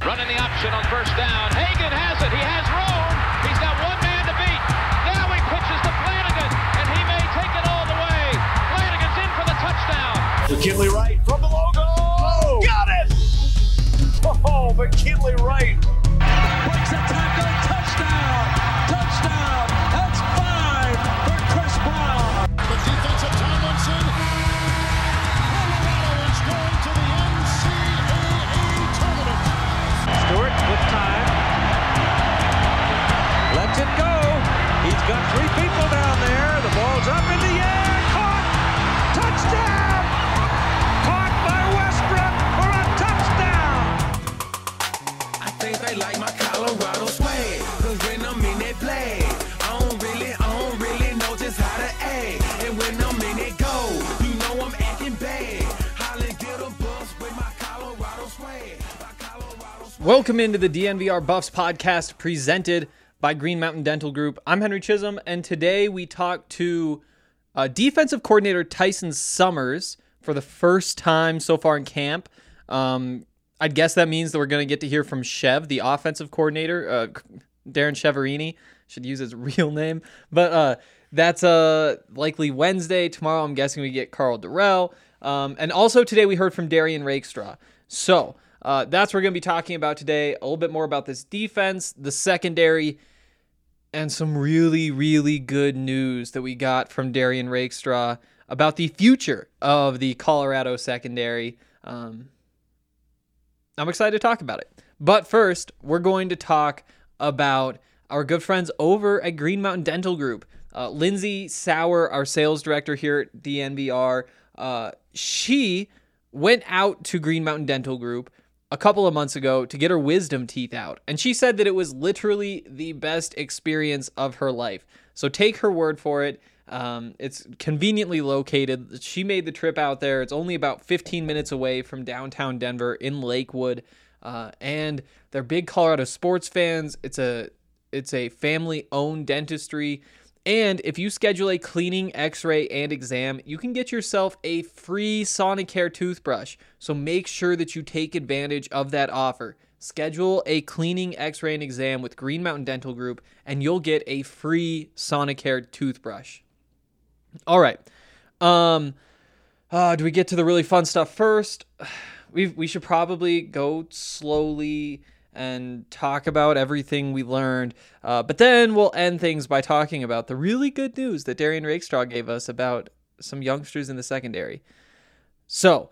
Running the option on first down. Hagan has it. He has room. He's got one man to beat. Now he pitches to Flanagan, and he may take it all the way. Flanagan's in for the touchdown. McKinley Wright from the logo. Oh, got it! Oh, McKinley Wright. Breaks a tackle. Touchdown. Touchdown. That's 5 for Chris Brown. The defensive Tomlinson. Colorado is going to the NCAA tournament. Stewart with time. Lets it go. He's got 3 people down there. The ball's up in the air. Caught. Touchdown. Caught by Westbrook for a touchdown. I think they like my Colorado swag. Cause when I'm in that play, I don't really know just how to act. And when I'm in it go, you know I'm acting bad. Holly get a bus with my Colorado swag. Welcome into the DNVR Buffs podcast presented by Green Mountain Dental Group. I'm Henry Chisholm, and today we talk to defensive coordinator Tyson Summers for the first time so far in camp. I guess that means that we're going to get to hear from Chev, the offensive coordinator, Darren Cheverini. Should use his real name. But that's likely Wednesday. Tomorrow I'm guessing we get Carl Durrell. And also today we heard from Darian Rakestraw. So that's what we're going to be talking about today. A little bit more about this defense, the secondary, and some really, really good news that we got from Darian Rakestraw about the future of the Colorado secondary. I'm excited to talk about it. But first, we're going to talk about our good friends over at Green Mountain Dental Group. Lindsay Sauer, our sales director here at DNVR, she went out to Green Mountain Dental Group a couple of months ago to get her wisdom teeth out. And she said that it was literally the best experience of her life. So take her word for it. It's conveniently located. She made the trip out there. It's only about 15 minutes away from downtown Denver in Lakewood. And they're big Colorado sports fans. It's a family-owned dentistry. And if you schedule a cleaning, x-ray, and exam, you can get yourself a free Sonicare toothbrush. So make sure that you take advantage of that offer. Schedule a cleaning, x-ray, and exam with Green Mountain Dental Group, and you'll get a free Sonicare toothbrush. All right. Do we get to the really fun stuff first? We should probably go slowly and talk about everything we learned. But then we'll end things by talking about the really good news that Darian Rakestraw gave us about some youngsters in the secondary. So,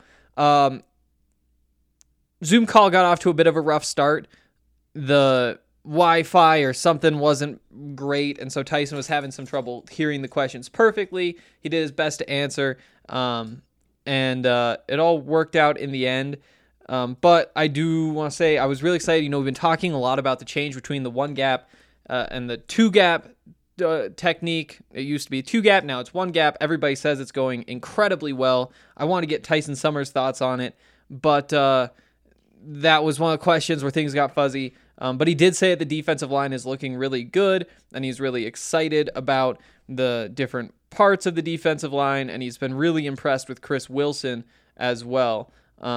Zoom call got off to a bit of a rough start. The Wi-Fi or something wasn't great, and so Tyson was having some trouble hearing the questions perfectly. He did his best to answer, and it all worked out in the end. But I do want to say I was really excited. We've been talking a lot about the change between the one gap and the two gap technique. It used to be two gap, now it's one gap. Everybody says it's going incredibly well. I want to get Tyson Summers' thoughts on it, but that was one of the questions where things got fuzzy. But he did say that the defensive line is looking really good, and he's really excited about the different parts of the defensive line, and he's been really impressed with Chris Wilson as well.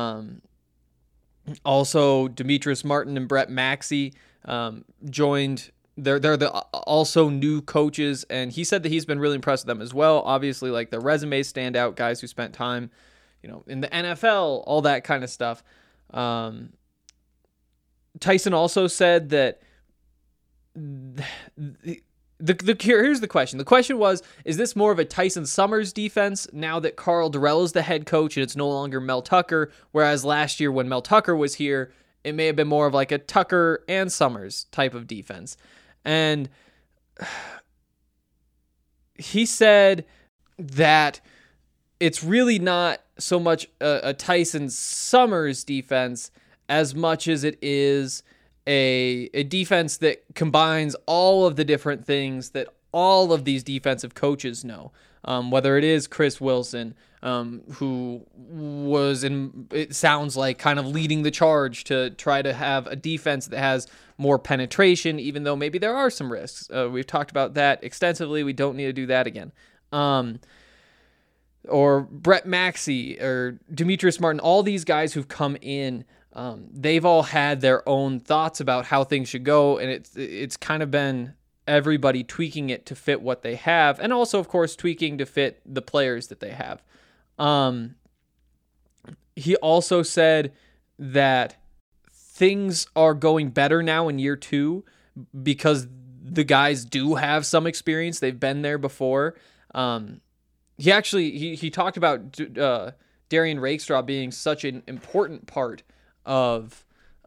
Also, Demetrius Martin and Brett Maxey joined. They're the also new coaches, and he said that he's been really impressed with them as well. Obviously, like their resumes stand out, guys who spent time, in the NFL, all that kind of stuff. Tyson also said that here's the question. The question was, is this more of a Tyson Summers defense now that Carl Durrell is the head coach and it's no longer Mel Tucker, whereas last year when Mel Tucker was here, it may have been more of like a Tucker and Summers type of defense. And he said that it's really not so much a Tyson Summers defense as much as it is a defense that combines all of the different things that all of these defensive coaches know. Whether it is Chris Wilson, who was it sounds like kind of leading the charge to try to have a defense that has more penetration, even though maybe there are some risks. We've talked about that extensively. We don't need to do that again. Or Brett Maxey or Demetrius Martin, all these guys who've come in they've all had their own thoughts about how things should go, and it's kind of been everybody tweaking it to fit what they have, and also, of course, tweaking to fit the players that they have. He also said that things are going better now in year 2 because the guys do have some experience. They've been there before. He talked about Darian Rakestraw being such an important part of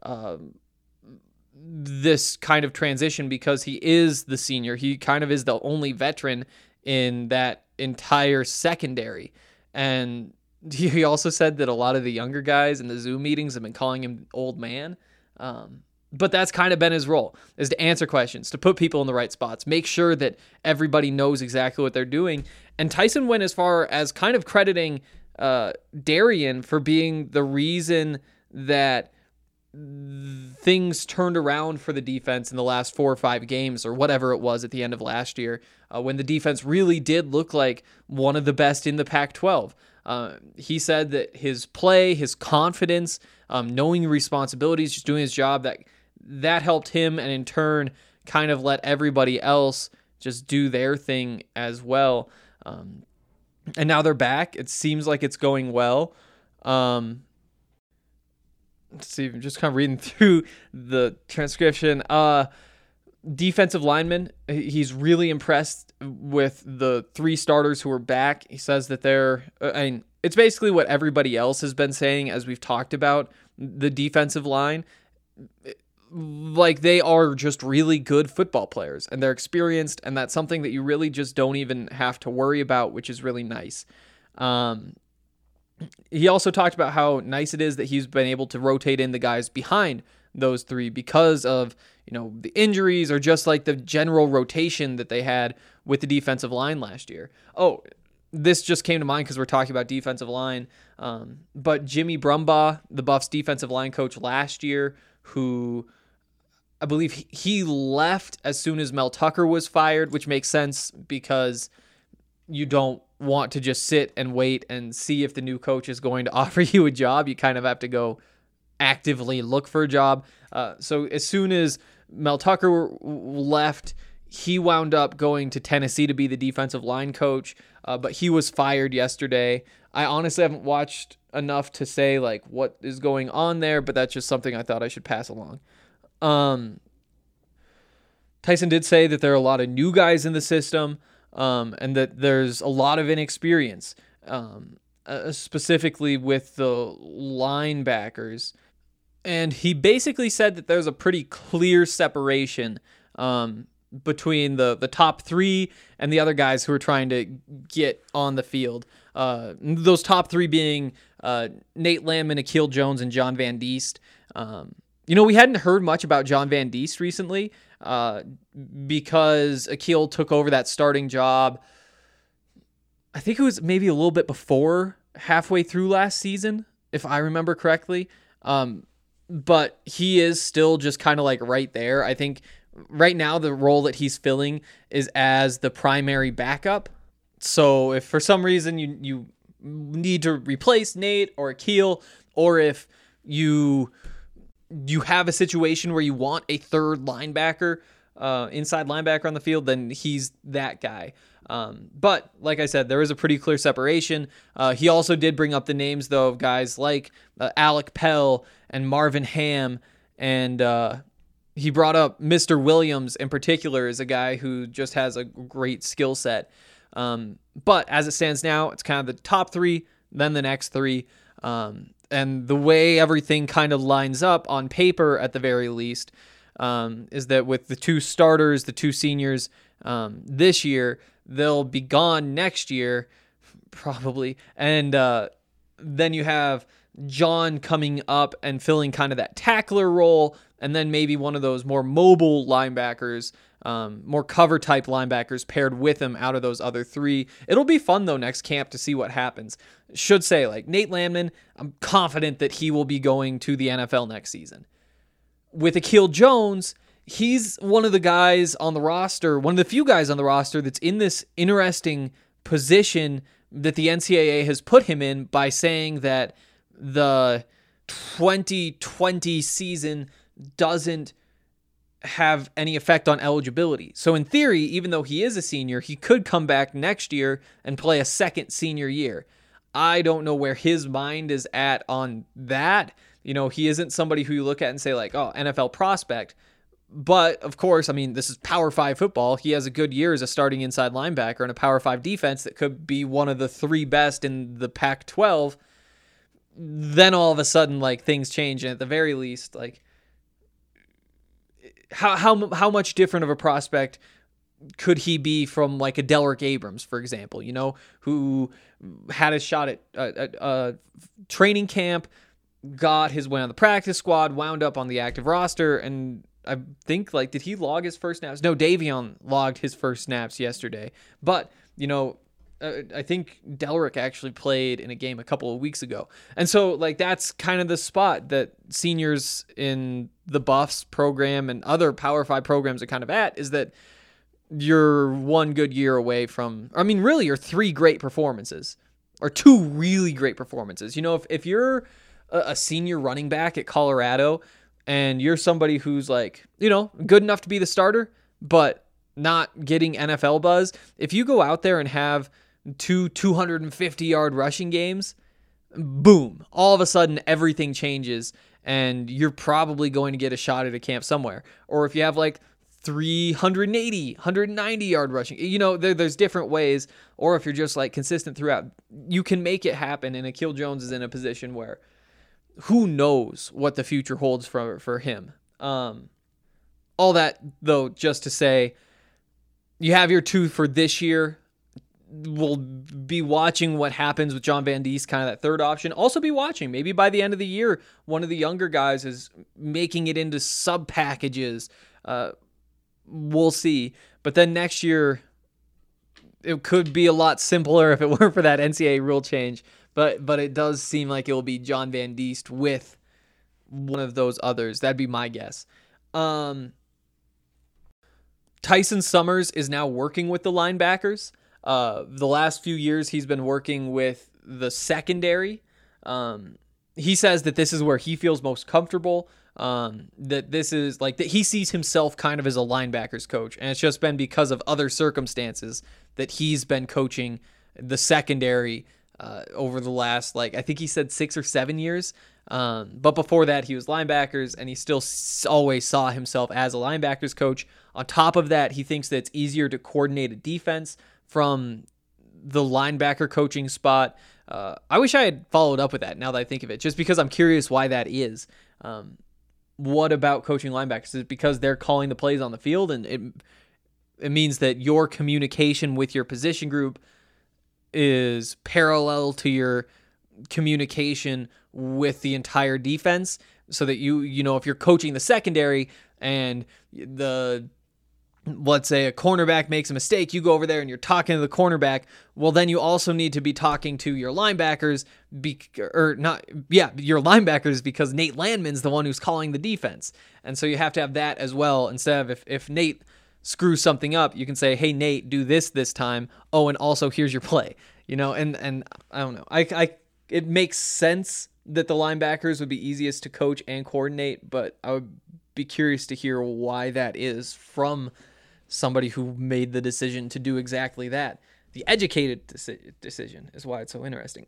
this kind of transition because he is the senior. He kind of is the only veteran in that entire secondary. And he also said that a lot of the younger guys in the Zoom meetings have been calling him old man. But that's kind of been his role, is to answer questions, to put people in the right spots, make sure that everybody knows exactly what they're doing. And Tyson went as far as kind of crediting Darian for being the reason that things turned around for the defense in the last 4 or 5 games or whatever it was at the end of last year, when the defense really did look like one of the best in the Pac-12. He said that his play, his confidence, knowing responsibilities, just doing his job, that helped him, and in turn kind of let everybody else just do their thing as well. And now they're back. It seems like it's going well. Let's see, I'm just kind of reading through the transcription. Defensive lineman, he's really impressed with the 3 starters who are back. He says that it's basically what everybody else has been saying as we've talked about the defensive line. Like, they are just really good football players, and they're experienced, and that's something that you really just don't even have to worry about, which is really nice. He also talked about how nice it is that he's been able to rotate in the guys behind those 3 because of, the injuries or just like the general rotation that they had with the defensive line last year. Oh, this just came to mind because we're talking about defensive line. But Jimmy Brumbaugh, the Buffs defensive line coach last year, who I believe he left as soon as Mel Tucker was fired, which makes sense because you don't want to just sit and wait and see if the new coach is going to offer you a job. You kind of have to go actively look for a job. So as soon as Mel Tucker left, he wound up going to Tennessee to be the defensive line coach, but he was fired yesterday. I honestly haven't watched enough to say like what is going on there, but that's just something I thought I should pass along. Tyson did say that there are a lot of new guys in the system, and that there's a lot of inexperience, specifically with the linebackers. And he basically said that there's a pretty clear separation between the top 3 and the other guys who are trying to get on the field. Those top 3 being Nate Landman, Akil Jones, and John Van Diest. We hadn't heard much about John Van Diest recently because Akil took over that starting job. I think it was maybe a little bit before halfway through last season, if I remember correctly. But he is still just kind of like right there. I think right now the role that he's filling is as the primary backup. So if for some reason you need to replace Nate or Akil, or if you have a situation where you want a third linebacker, inside linebacker on the field, then he's that guy. But like I said, there is a pretty clear separation. He also did bring up the names, though, of guys like Alec Pell and Marvin Ham, and he brought up Mr. Williams in particular as a guy who just has a great skill set. But as it stands now, it's kind of the top 3, then the next 3. And the way everything kind of lines up on paper, at the very least, is that with the 2 starters, the 2 seniors this year, they'll be gone next year, probably. And then you have John coming up and filling kind of that tackler role, and then maybe one of those more mobile linebackers, more cover type linebackers paired with him out of those other 3. It'll be fun though next camp to see what happens. Should say, like, Nate Landman, I'm confident that he will be going to the NFL next season. With Akil Jones, he's one of the guys on the roster, one of the few guys on the roster that's in this interesting position that the NCAA has put him in by saying that the 2020 season doesn't have any effect on eligibility. So in theory, even though he is a senior, he could come back next year and play a second senior year. I don't know where his mind is at on that. He isn't somebody who you look at and say like, oh, NFL prospect. But of course, I mean, this is Power 5 football. He has a good year as a starting inside linebacker in a Power 5 defense that could be one of the 3 best in the Pac-12. Then all of a sudden, like, things change, and at the very least, like, how much different of a prospect could he be from like a Delrick Abrams, for example, who had a shot at training camp, got his way on the practice squad, wound up on the active roster, and I think, like, did he log his first snaps? No, Davion logged his first snaps yesterday. But, I think Delrick actually played in a game a couple of weeks ago. And so, like, that's kind of the spot that seniors in the Buffs program and other Power 5 programs are kind of at, is that you're one good year away from, I mean, really, you're 3 great performances or 2 really great performances. If you're a senior running back at Colorado and you're somebody who's like, good enough to be the starter, but not getting NFL buzz, if you go out there and have 2 250-yard rushing games, boom, all of a sudden everything changes and you're probably going to get a shot at a camp somewhere. Or if you have like 380, 190-yard rushing, there's different ways. Or if you're just like consistent throughout, you can make it happen. And Akil Jones is in a position where who knows what the future holds for him. All that, though, just to say, you have your 2 for this year. We'll be watching what happens with John Van Diest, kind of that third option. Also be watching, maybe by the end of the year, one of the younger guys is making it into sub packages. We'll see. But then next year, it could be a lot simpler if it weren't for that NCAA rule change. But it does seem like it will be John Van Diest with one of those others. That'd be my guess. Tyson Summers is now working with the linebackers. The last few years, he's been working with the secondary. He says that this is where he feels most comfortable. That this is like that he sees himself kind of as a linebackers coach, and it's just been because of other circumstances that he's been coaching the secondary over the last, I think he said 6 or 7 years. But before that, he was linebackers, and he still always saw himself as a linebackers coach. On top of that, he thinks that it's easier to coordinate a defense from the linebacker coaching spot. I wish I had followed up with that now that I think of it, just because I'm curious why that is. What about coaching linebackers? Is it because they're calling the plays on the field, and it means that your communication with your position group is parallel to your communication with the entire defense, so that if you're coaching the secondary and let's say a cornerback makes a mistake, you go over there and you're talking to the cornerback. Well, then you also need to be talking to your linebackers, your linebackers, because Nate Landman's the one who's calling the defense. And so you have to have that as well. Instead of if Nate screws something up, you can say, hey, Nate, do this time. Oh, and also here's your play, and I don't know. It makes sense that the linebackers would be easiest to coach and coordinate, but I would be curious to hear why that is from somebody who made the decision to do exactly that. The educated decision is why it's so interesting.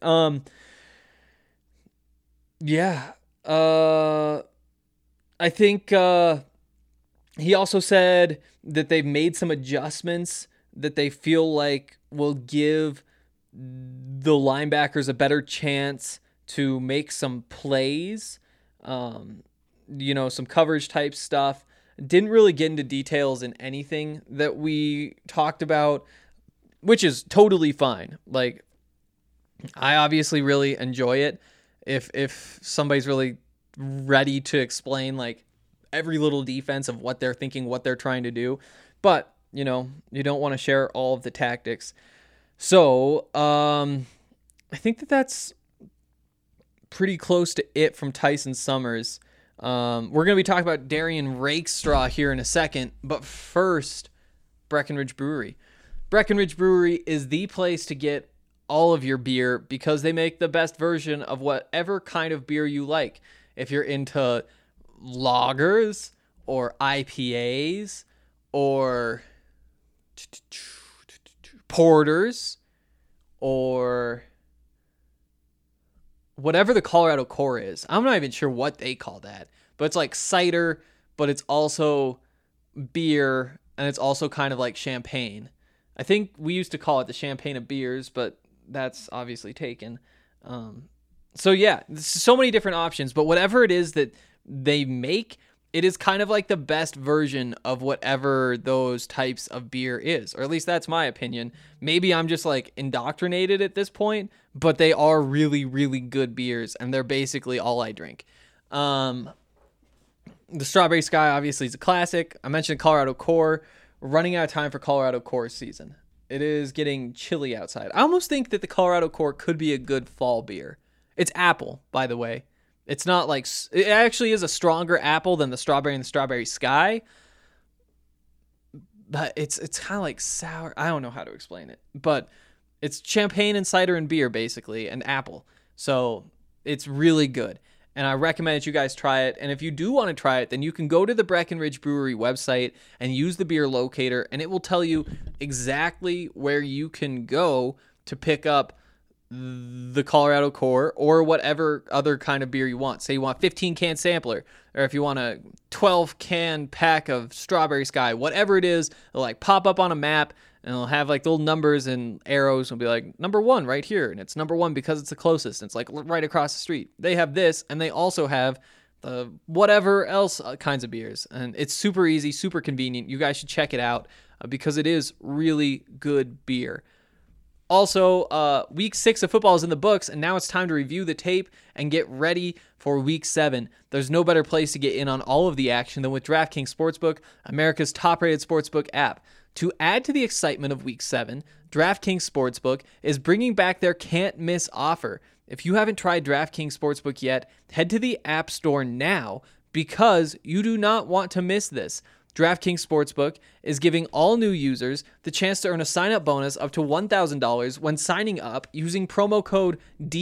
I think he also said that they've made some adjustments that they feel like will give the linebackers a better chance to make some plays, some coverage type stuff. Didn't really get into details in anything that we talked about, which is totally fine. Like, I obviously really enjoy it if somebody's really ready to explain like every little defense of what they're thinking, what they're trying to do. But, you don't want to share all of the tactics. So, I think that's pretty close to it from Tyson Summers. We're going to be talking about Darian Rakestraw here in a second, but first, Breckenridge Brewery. Breckenridge Brewery is the place to get all of your beer because they make the best version of whatever kind of beer you like. If you're into lagers or IPAs or porters or whatever the Colorado Core is. I'm not even sure what they call that, but it's like cider, but it's also beer, and it's also kind of like champagne. I think we used to call it the champagne of beers, but that's obviously taken. So yeah, so many different options, but whatever it is that they make, it is kind of like the best version of whatever those types of beer is, or at least that's my opinion. Maybe I'm just like indoctrinated at this point, but they are really, really good beers, and they're basically all I drink. The Strawberry Sky obviously is a classic. I mentioned Colorado Core. We're running out of time for Colorado Core season. It is getting chilly outside. I almost think that the Colorado Core could be a good fall beer. It's apple, by the way. It's not like, it actually is a stronger apple than the Strawberry and the Strawberry Sky, but it's kind of like sour. I don't know how to explain it, but it's champagne and cider and beer basically, and apple. So it's really good, and I recommend that you guys try it. And if you do want to try it, then you can go to the Breckenridge Brewery website and use the beer locator, and it will tell you exactly where you can go to pick up the Colorado Core or whatever other kind of beer you want. Say you want 15 can sampler, or if you want a 12 can pack of Strawberry Sky, whatever it is, it'll like pop up on a map, and it'll have like little numbers and arrows, and it'll be like number 1 right here, and it's number 1 because it's the closest, and it's like right across the street. They have this, and they also have the whatever else kinds of beers, and it's super easy, super convenient. You guys should check it out because it is really good beer. Also, week 6 of football is in the books, and now it's time to review the tape and get ready for week 7. There's no better place to get in on all of the action than with DraftKings Sportsbook, America's top-rated sportsbook app. To add to the excitement of week 7, DraftKings Sportsbook is bringing back their can't-miss offer. If you haven't tried DraftKings Sportsbook yet, head to the App Store now because you do not want to miss this. DraftKings Sportsbook is giving all new users the chance to earn a sign-up bonus up to $1,000 when signing up using promo code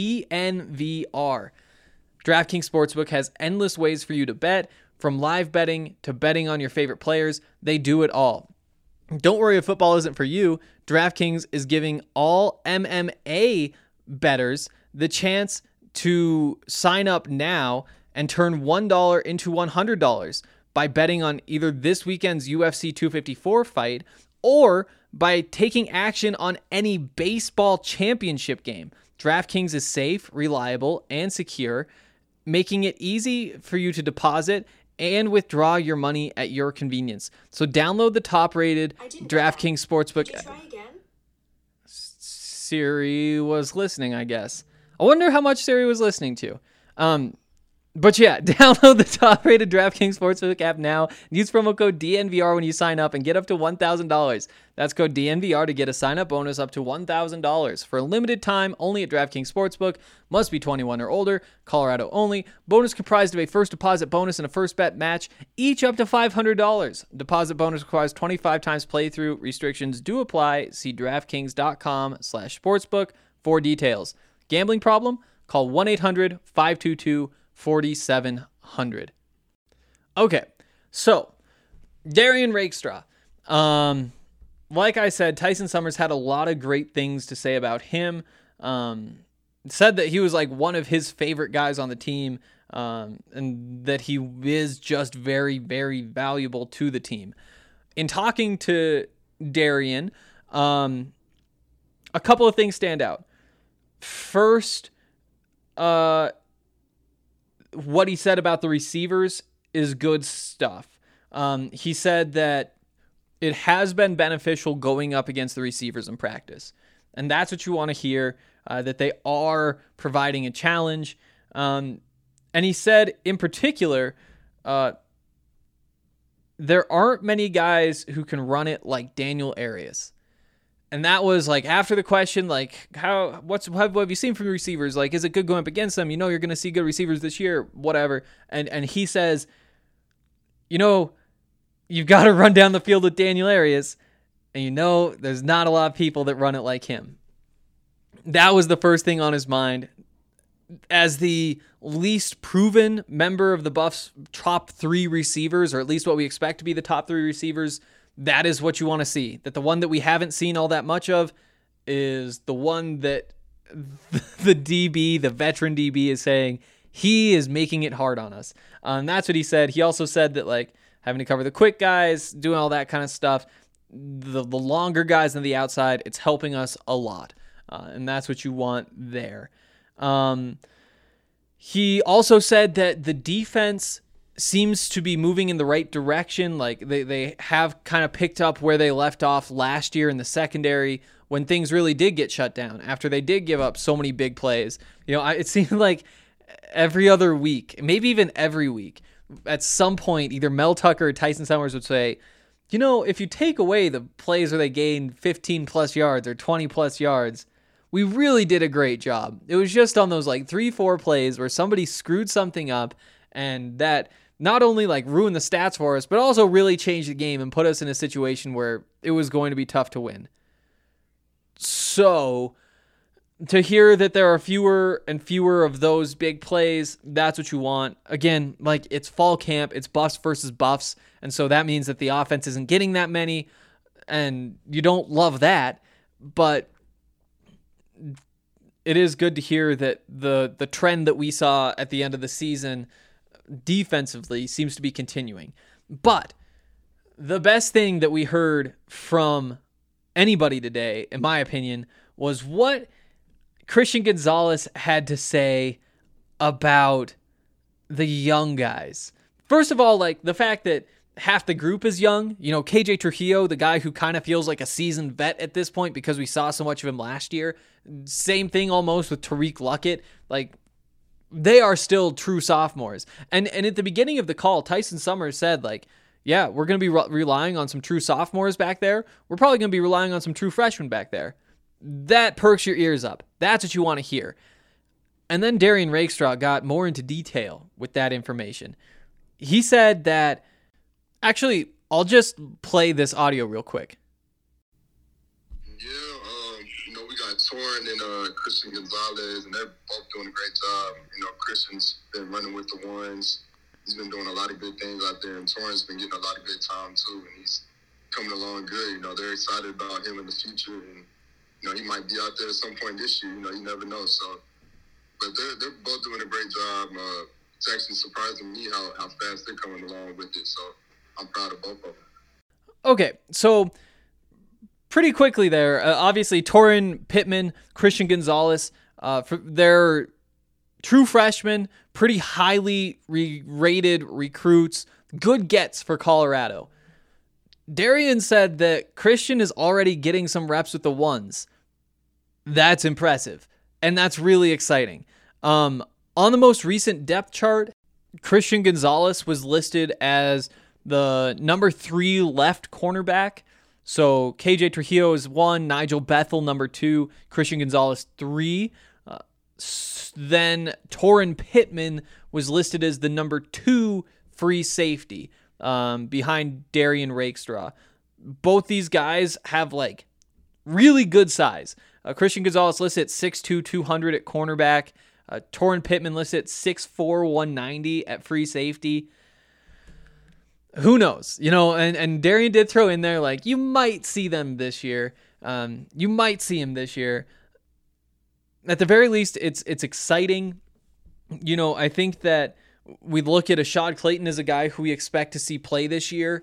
DNVR. DraftKings Sportsbook has endless ways for you to bet, from live betting to betting on your favorite players. They do it all. Don't worry if football isn't for you. DraftKings is giving all MMA bettors the chance to sign up now and turn $1 into $100 by betting on either this weekend's UFC 254 fight or by taking action on any baseball championship game. DraftKings is safe, reliable, and secure, making it easy for you to deposit and withdraw your money at your convenience. So download the top-rated DraftKings Sportsbook. Did you try again? Siri was listening, I guess. I wonder how much Siri was listening to. But yeah, download the top-rated DraftKings Sportsbook app now. Use promo code DNVR when you sign up and get up to $1,000. That's code DNVR to get a sign-up bonus up to $1,000. For a limited time, only at DraftKings Sportsbook. Must be 21 or older. Colorado only. Bonus comprised of a first deposit bonus and a first bet match, each up to $500. Deposit bonus requires 25 times playthrough. Restrictions do apply. See DraftKings.com/sportsbook for details. Gambling problem? Call 1-800-522-4700. Okay, so Darian Rakestraw. Like I said, Tyson Summers had a lot of great things to say about him. Said that he was like one of his favorite guys on the team, and that he is just very, very valuable to the team. In talking to Darian, a couple of things stand out. First, what he said about the receivers is good stuff. He said that it has been beneficial going up against the receivers in practice. And that's what you want to hear, that they are providing a challenge. And he said, in particular, there aren't many guys who can run it like Daniel Arias. And that was like after the question, like, what have you seen from the receivers? Like, is it good going up against them? You know, you're going to see good receivers this year, whatever. And he says, you know, you've got to run down the field with Daniel Arias. And you know, there's not a lot of people that run it like him. That was the first thing on his mind. As the least proven member of the Buffs' top 3 receivers, or at least what we expect to be the top 3 receivers, that is what you want to see. That the one that we haven't seen all that much of is the one that the DB, the veteran DB, is saying he is making it hard on us. And that's what he said. He also said that, like, having to cover the quick guys, doing all that kind of stuff, the longer guys on the outside, it's helping us a lot. And that's what you want there. He also said that the defense seems to be moving in the right direction. Like they have kind of picked up where they left off last year in the secondary when things really did get shut down after they did give up so many big plays. It seemed like every other week, maybe even every week, at some point, either Mel Tucker or Tyson Summers would say, if you take away the plays where they gained 15 plus yards or 20 plus yards, we really did a great job. It was just on those 3-4 plays where somebody screwed something up and that not only ruined the stats for us, but also really changed the game and put us in a situation where it was going to be tough to win. So to hear that there are fewer and fewer of those big plays, that's what you want. Again, it's fall camp, it's Buffs versus Buffs, and so that means that the offense isn't getting that many, and you don't love that, but it is good to hear that the trend that we saw at the end of the season defensively seems to be continuing. But the best thing that we heard from anybody today, in my opinion, was what Christian Gonzalez had to say about the young guys. First of all, the fact that half the group is young. KJ Trujillo, the guy who kind of feels like a seasoned vet at this point because we saw so much of him last year. Same thing almost with Tariq Luckett. They are still true sophomores. And at the beginning of the call, Tyson Summers said, yeah, we're going to be relying on some true sophomores back there. We're probably going to be relying on some true freshmen back there. That perks your ears up. That's what you want to hear. And then Darian Rakestraw got more into detail with that information. He said that, actually, I'll just play this audio real quick. Yeah, we got Torrin and Christian Gonzalez, and they're both doing a great job. Christian's been running with the ones. He's been doing a lot of good things out there, and Torrin's been getting a lot of good time, too, and he's coming along good. They're excited about him in the future, and, he might be out there at some point this year. You never know. So, but they're both doing a great job. It's actually surprising me how fast they're coming along with it, so I'm proud of both of them. Okay, so pretty quickly there, obviously Torrin Pittman, Christian Gonzalez, they're true freshmen, pretty highly rated recruits, good gets for Colorado. Darian said that Christian is already getting some reps with the ones. That's impressive, and that's really exciting. On the most recent depth chart, Christian Gonzalez was listed as the number 3 left cornerback. So KJ Trujillo is 1, Nigel Bethel number 2, Christian Gonzalez 3. Then Torrin Pittman was listed as the number 2 free safety behind Darian Rakestraw. Both these guys have really good size. Christian Gonzalez listed at 6'2", 200 at cornerback. Torrin Pittman listed at 6'4", 190 at free safety. Who knows? And Darian did throw in there, you might see them this year. You might see him this year. At the very least, it's exciting. I think that we look at Ashad Clayton as a guy who we expect to see play this year.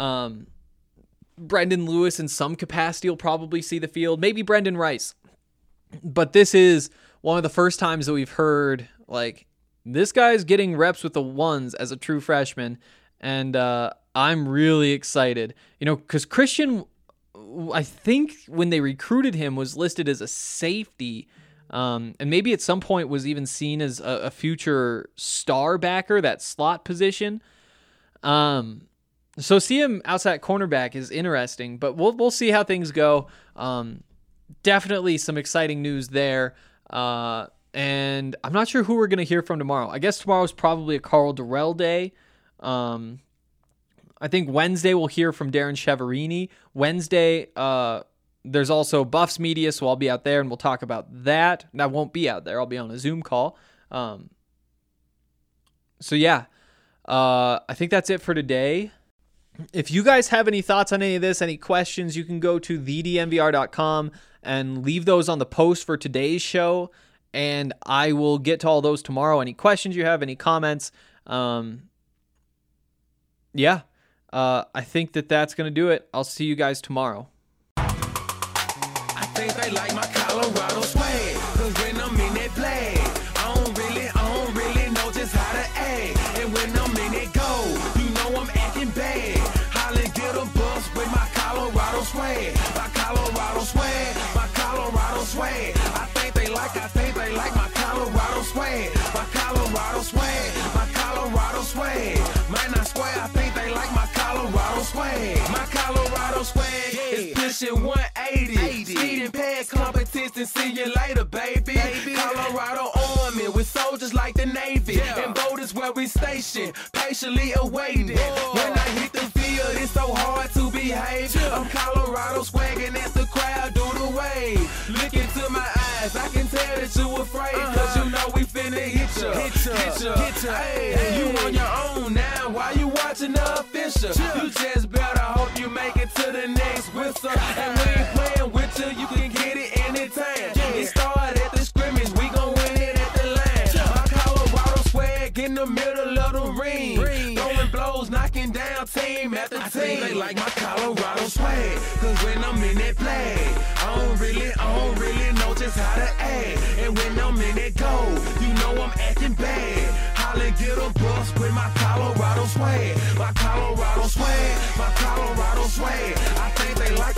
Brendan Lewis in some capacity will probably see the field. Maybe Brendan Rice. But this is one of the first times that we've heard, this guy's getting reps with the ones as a true freshman. And I'm really excited. Because Christian, I think when they recruited him, was listed as a safety. And maybe at some point was even seen as a future star backer, that slot position. So see him outside cornerback is interesting, but we'll see how things go. Definitely some exciting news there. And I'm not sure who we're going to hear from tomorrow. I guess tomorrow's probably a Carl Durrell day. I think Wednesday we'll hear from Darren Cheverini. Wednesday, There's also Buffs Media, so I'll be out there and we'll talk about that. And I won't be out there. I'll be on a Zoom call. So yeah, I think that's it for today. If you guys have any thoughts on any of this, any questions, you can go to thednvr.com and leave those on the post for today's show. And I will get to all those tomorrow. Any questions you have, any comments. I think that's going to do it. I'll see you guys tomorrow. I think they like my Colorado swag, 'cause when I'm in that flag, I don't really know just how to act. And when I'm in that goal, you know I'm acting bad. Holla, get a bus with my Colorado swag. My Colorado swag, my Colorado swag. I think they like my Colorado swag. My Colorado swag, my Colorado swag. Man, I swear, I think they like my Colorado swag. My Colorado swag is pushing 180. Speed and pad competition, see you later, baby. Colorado Army with soldiers like the Navy. And boat is where we station, patiently awaiting. When I hit the field, it's so hard to behave. I'm Colorado swagging as the crowd do the wave. Look into my eyes, I can tell that you afraid. 'Cause you know we finna hit ya. Hey, you on your own now, why you watching the official? You just better hope you make it to the next whistle. And we ain't playing with you can get it anytime. It started at the scrimmage, we gon' win it at the line. My Colorado swag in the middle of the ring. Throwing blows, knocking down team after team. I think they like my Colorado swag, 'cause when I'm in that flag, I don't really know just how to act. And when I'm in that goal, you know I'm acting bad. Holla, get a bus with my Colorado swag. My Colorado swag, my Colorado swag. I think they like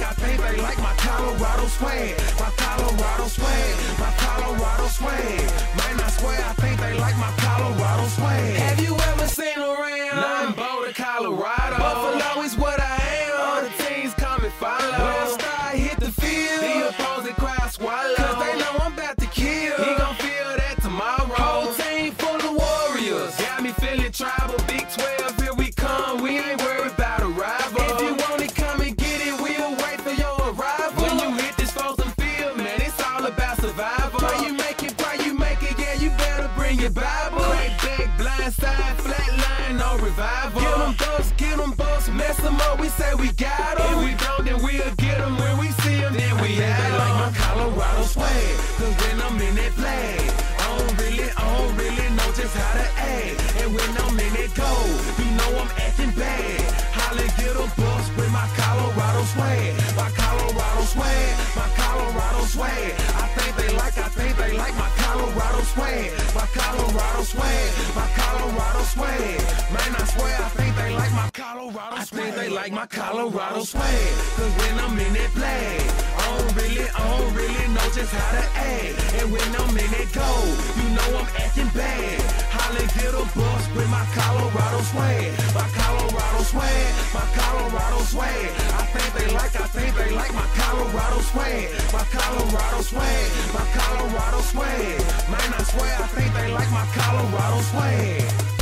my Colorado swag. My Colorado swag, my Colorado swag. Man, I swear, I think they like my Colorado swag. Have you ever seen around? Nah, I'm Boulder, Colorado. Buffalo is what I am. All the teams come and follow. When I start hit the field, the opposing crowd swallow. 'Cause they know I'm about to kill. He gon' feel that tomorrow. Whole team full of warriors. Got me feeling tribal. Big 12, here we come. We ain't worried about a rival. If you want it, come and get it. We'll wait for your arrival. When you hit this frozen field, man, it's all about survival. Pray you make it, yeah, you better bring your Bible. Crack back, blind side, flat line, no revival. Get them bucks, mess them up, we say we got them. If we don't, then we'll get them. When we see them, then we have them. Like my Colorado swag, 'cause when I'm in that flag, I don't really know just how to act. And when I'm in that goal, you know I'm acting bad. Holla, get a bus with my Colorado swag. My Colorado swag, my Colorado swag. I think they like my Colorado swag. My Colorado swag, my Colorado swag. Man, I swear, I think they like my Colorado swag. I think they like my Colorado swag. 'Cause when I'm in that flag, I don't really know just how to act. And when I'm in that goal, you know I'm acting bad. Holla, get a bus with my Colorado swag. My Colorado swag, my Colorado swag. I think they like my Colorado swag. My Colorado swag, my Colorado swag. Man, I swear, I think they like my Colorado swag.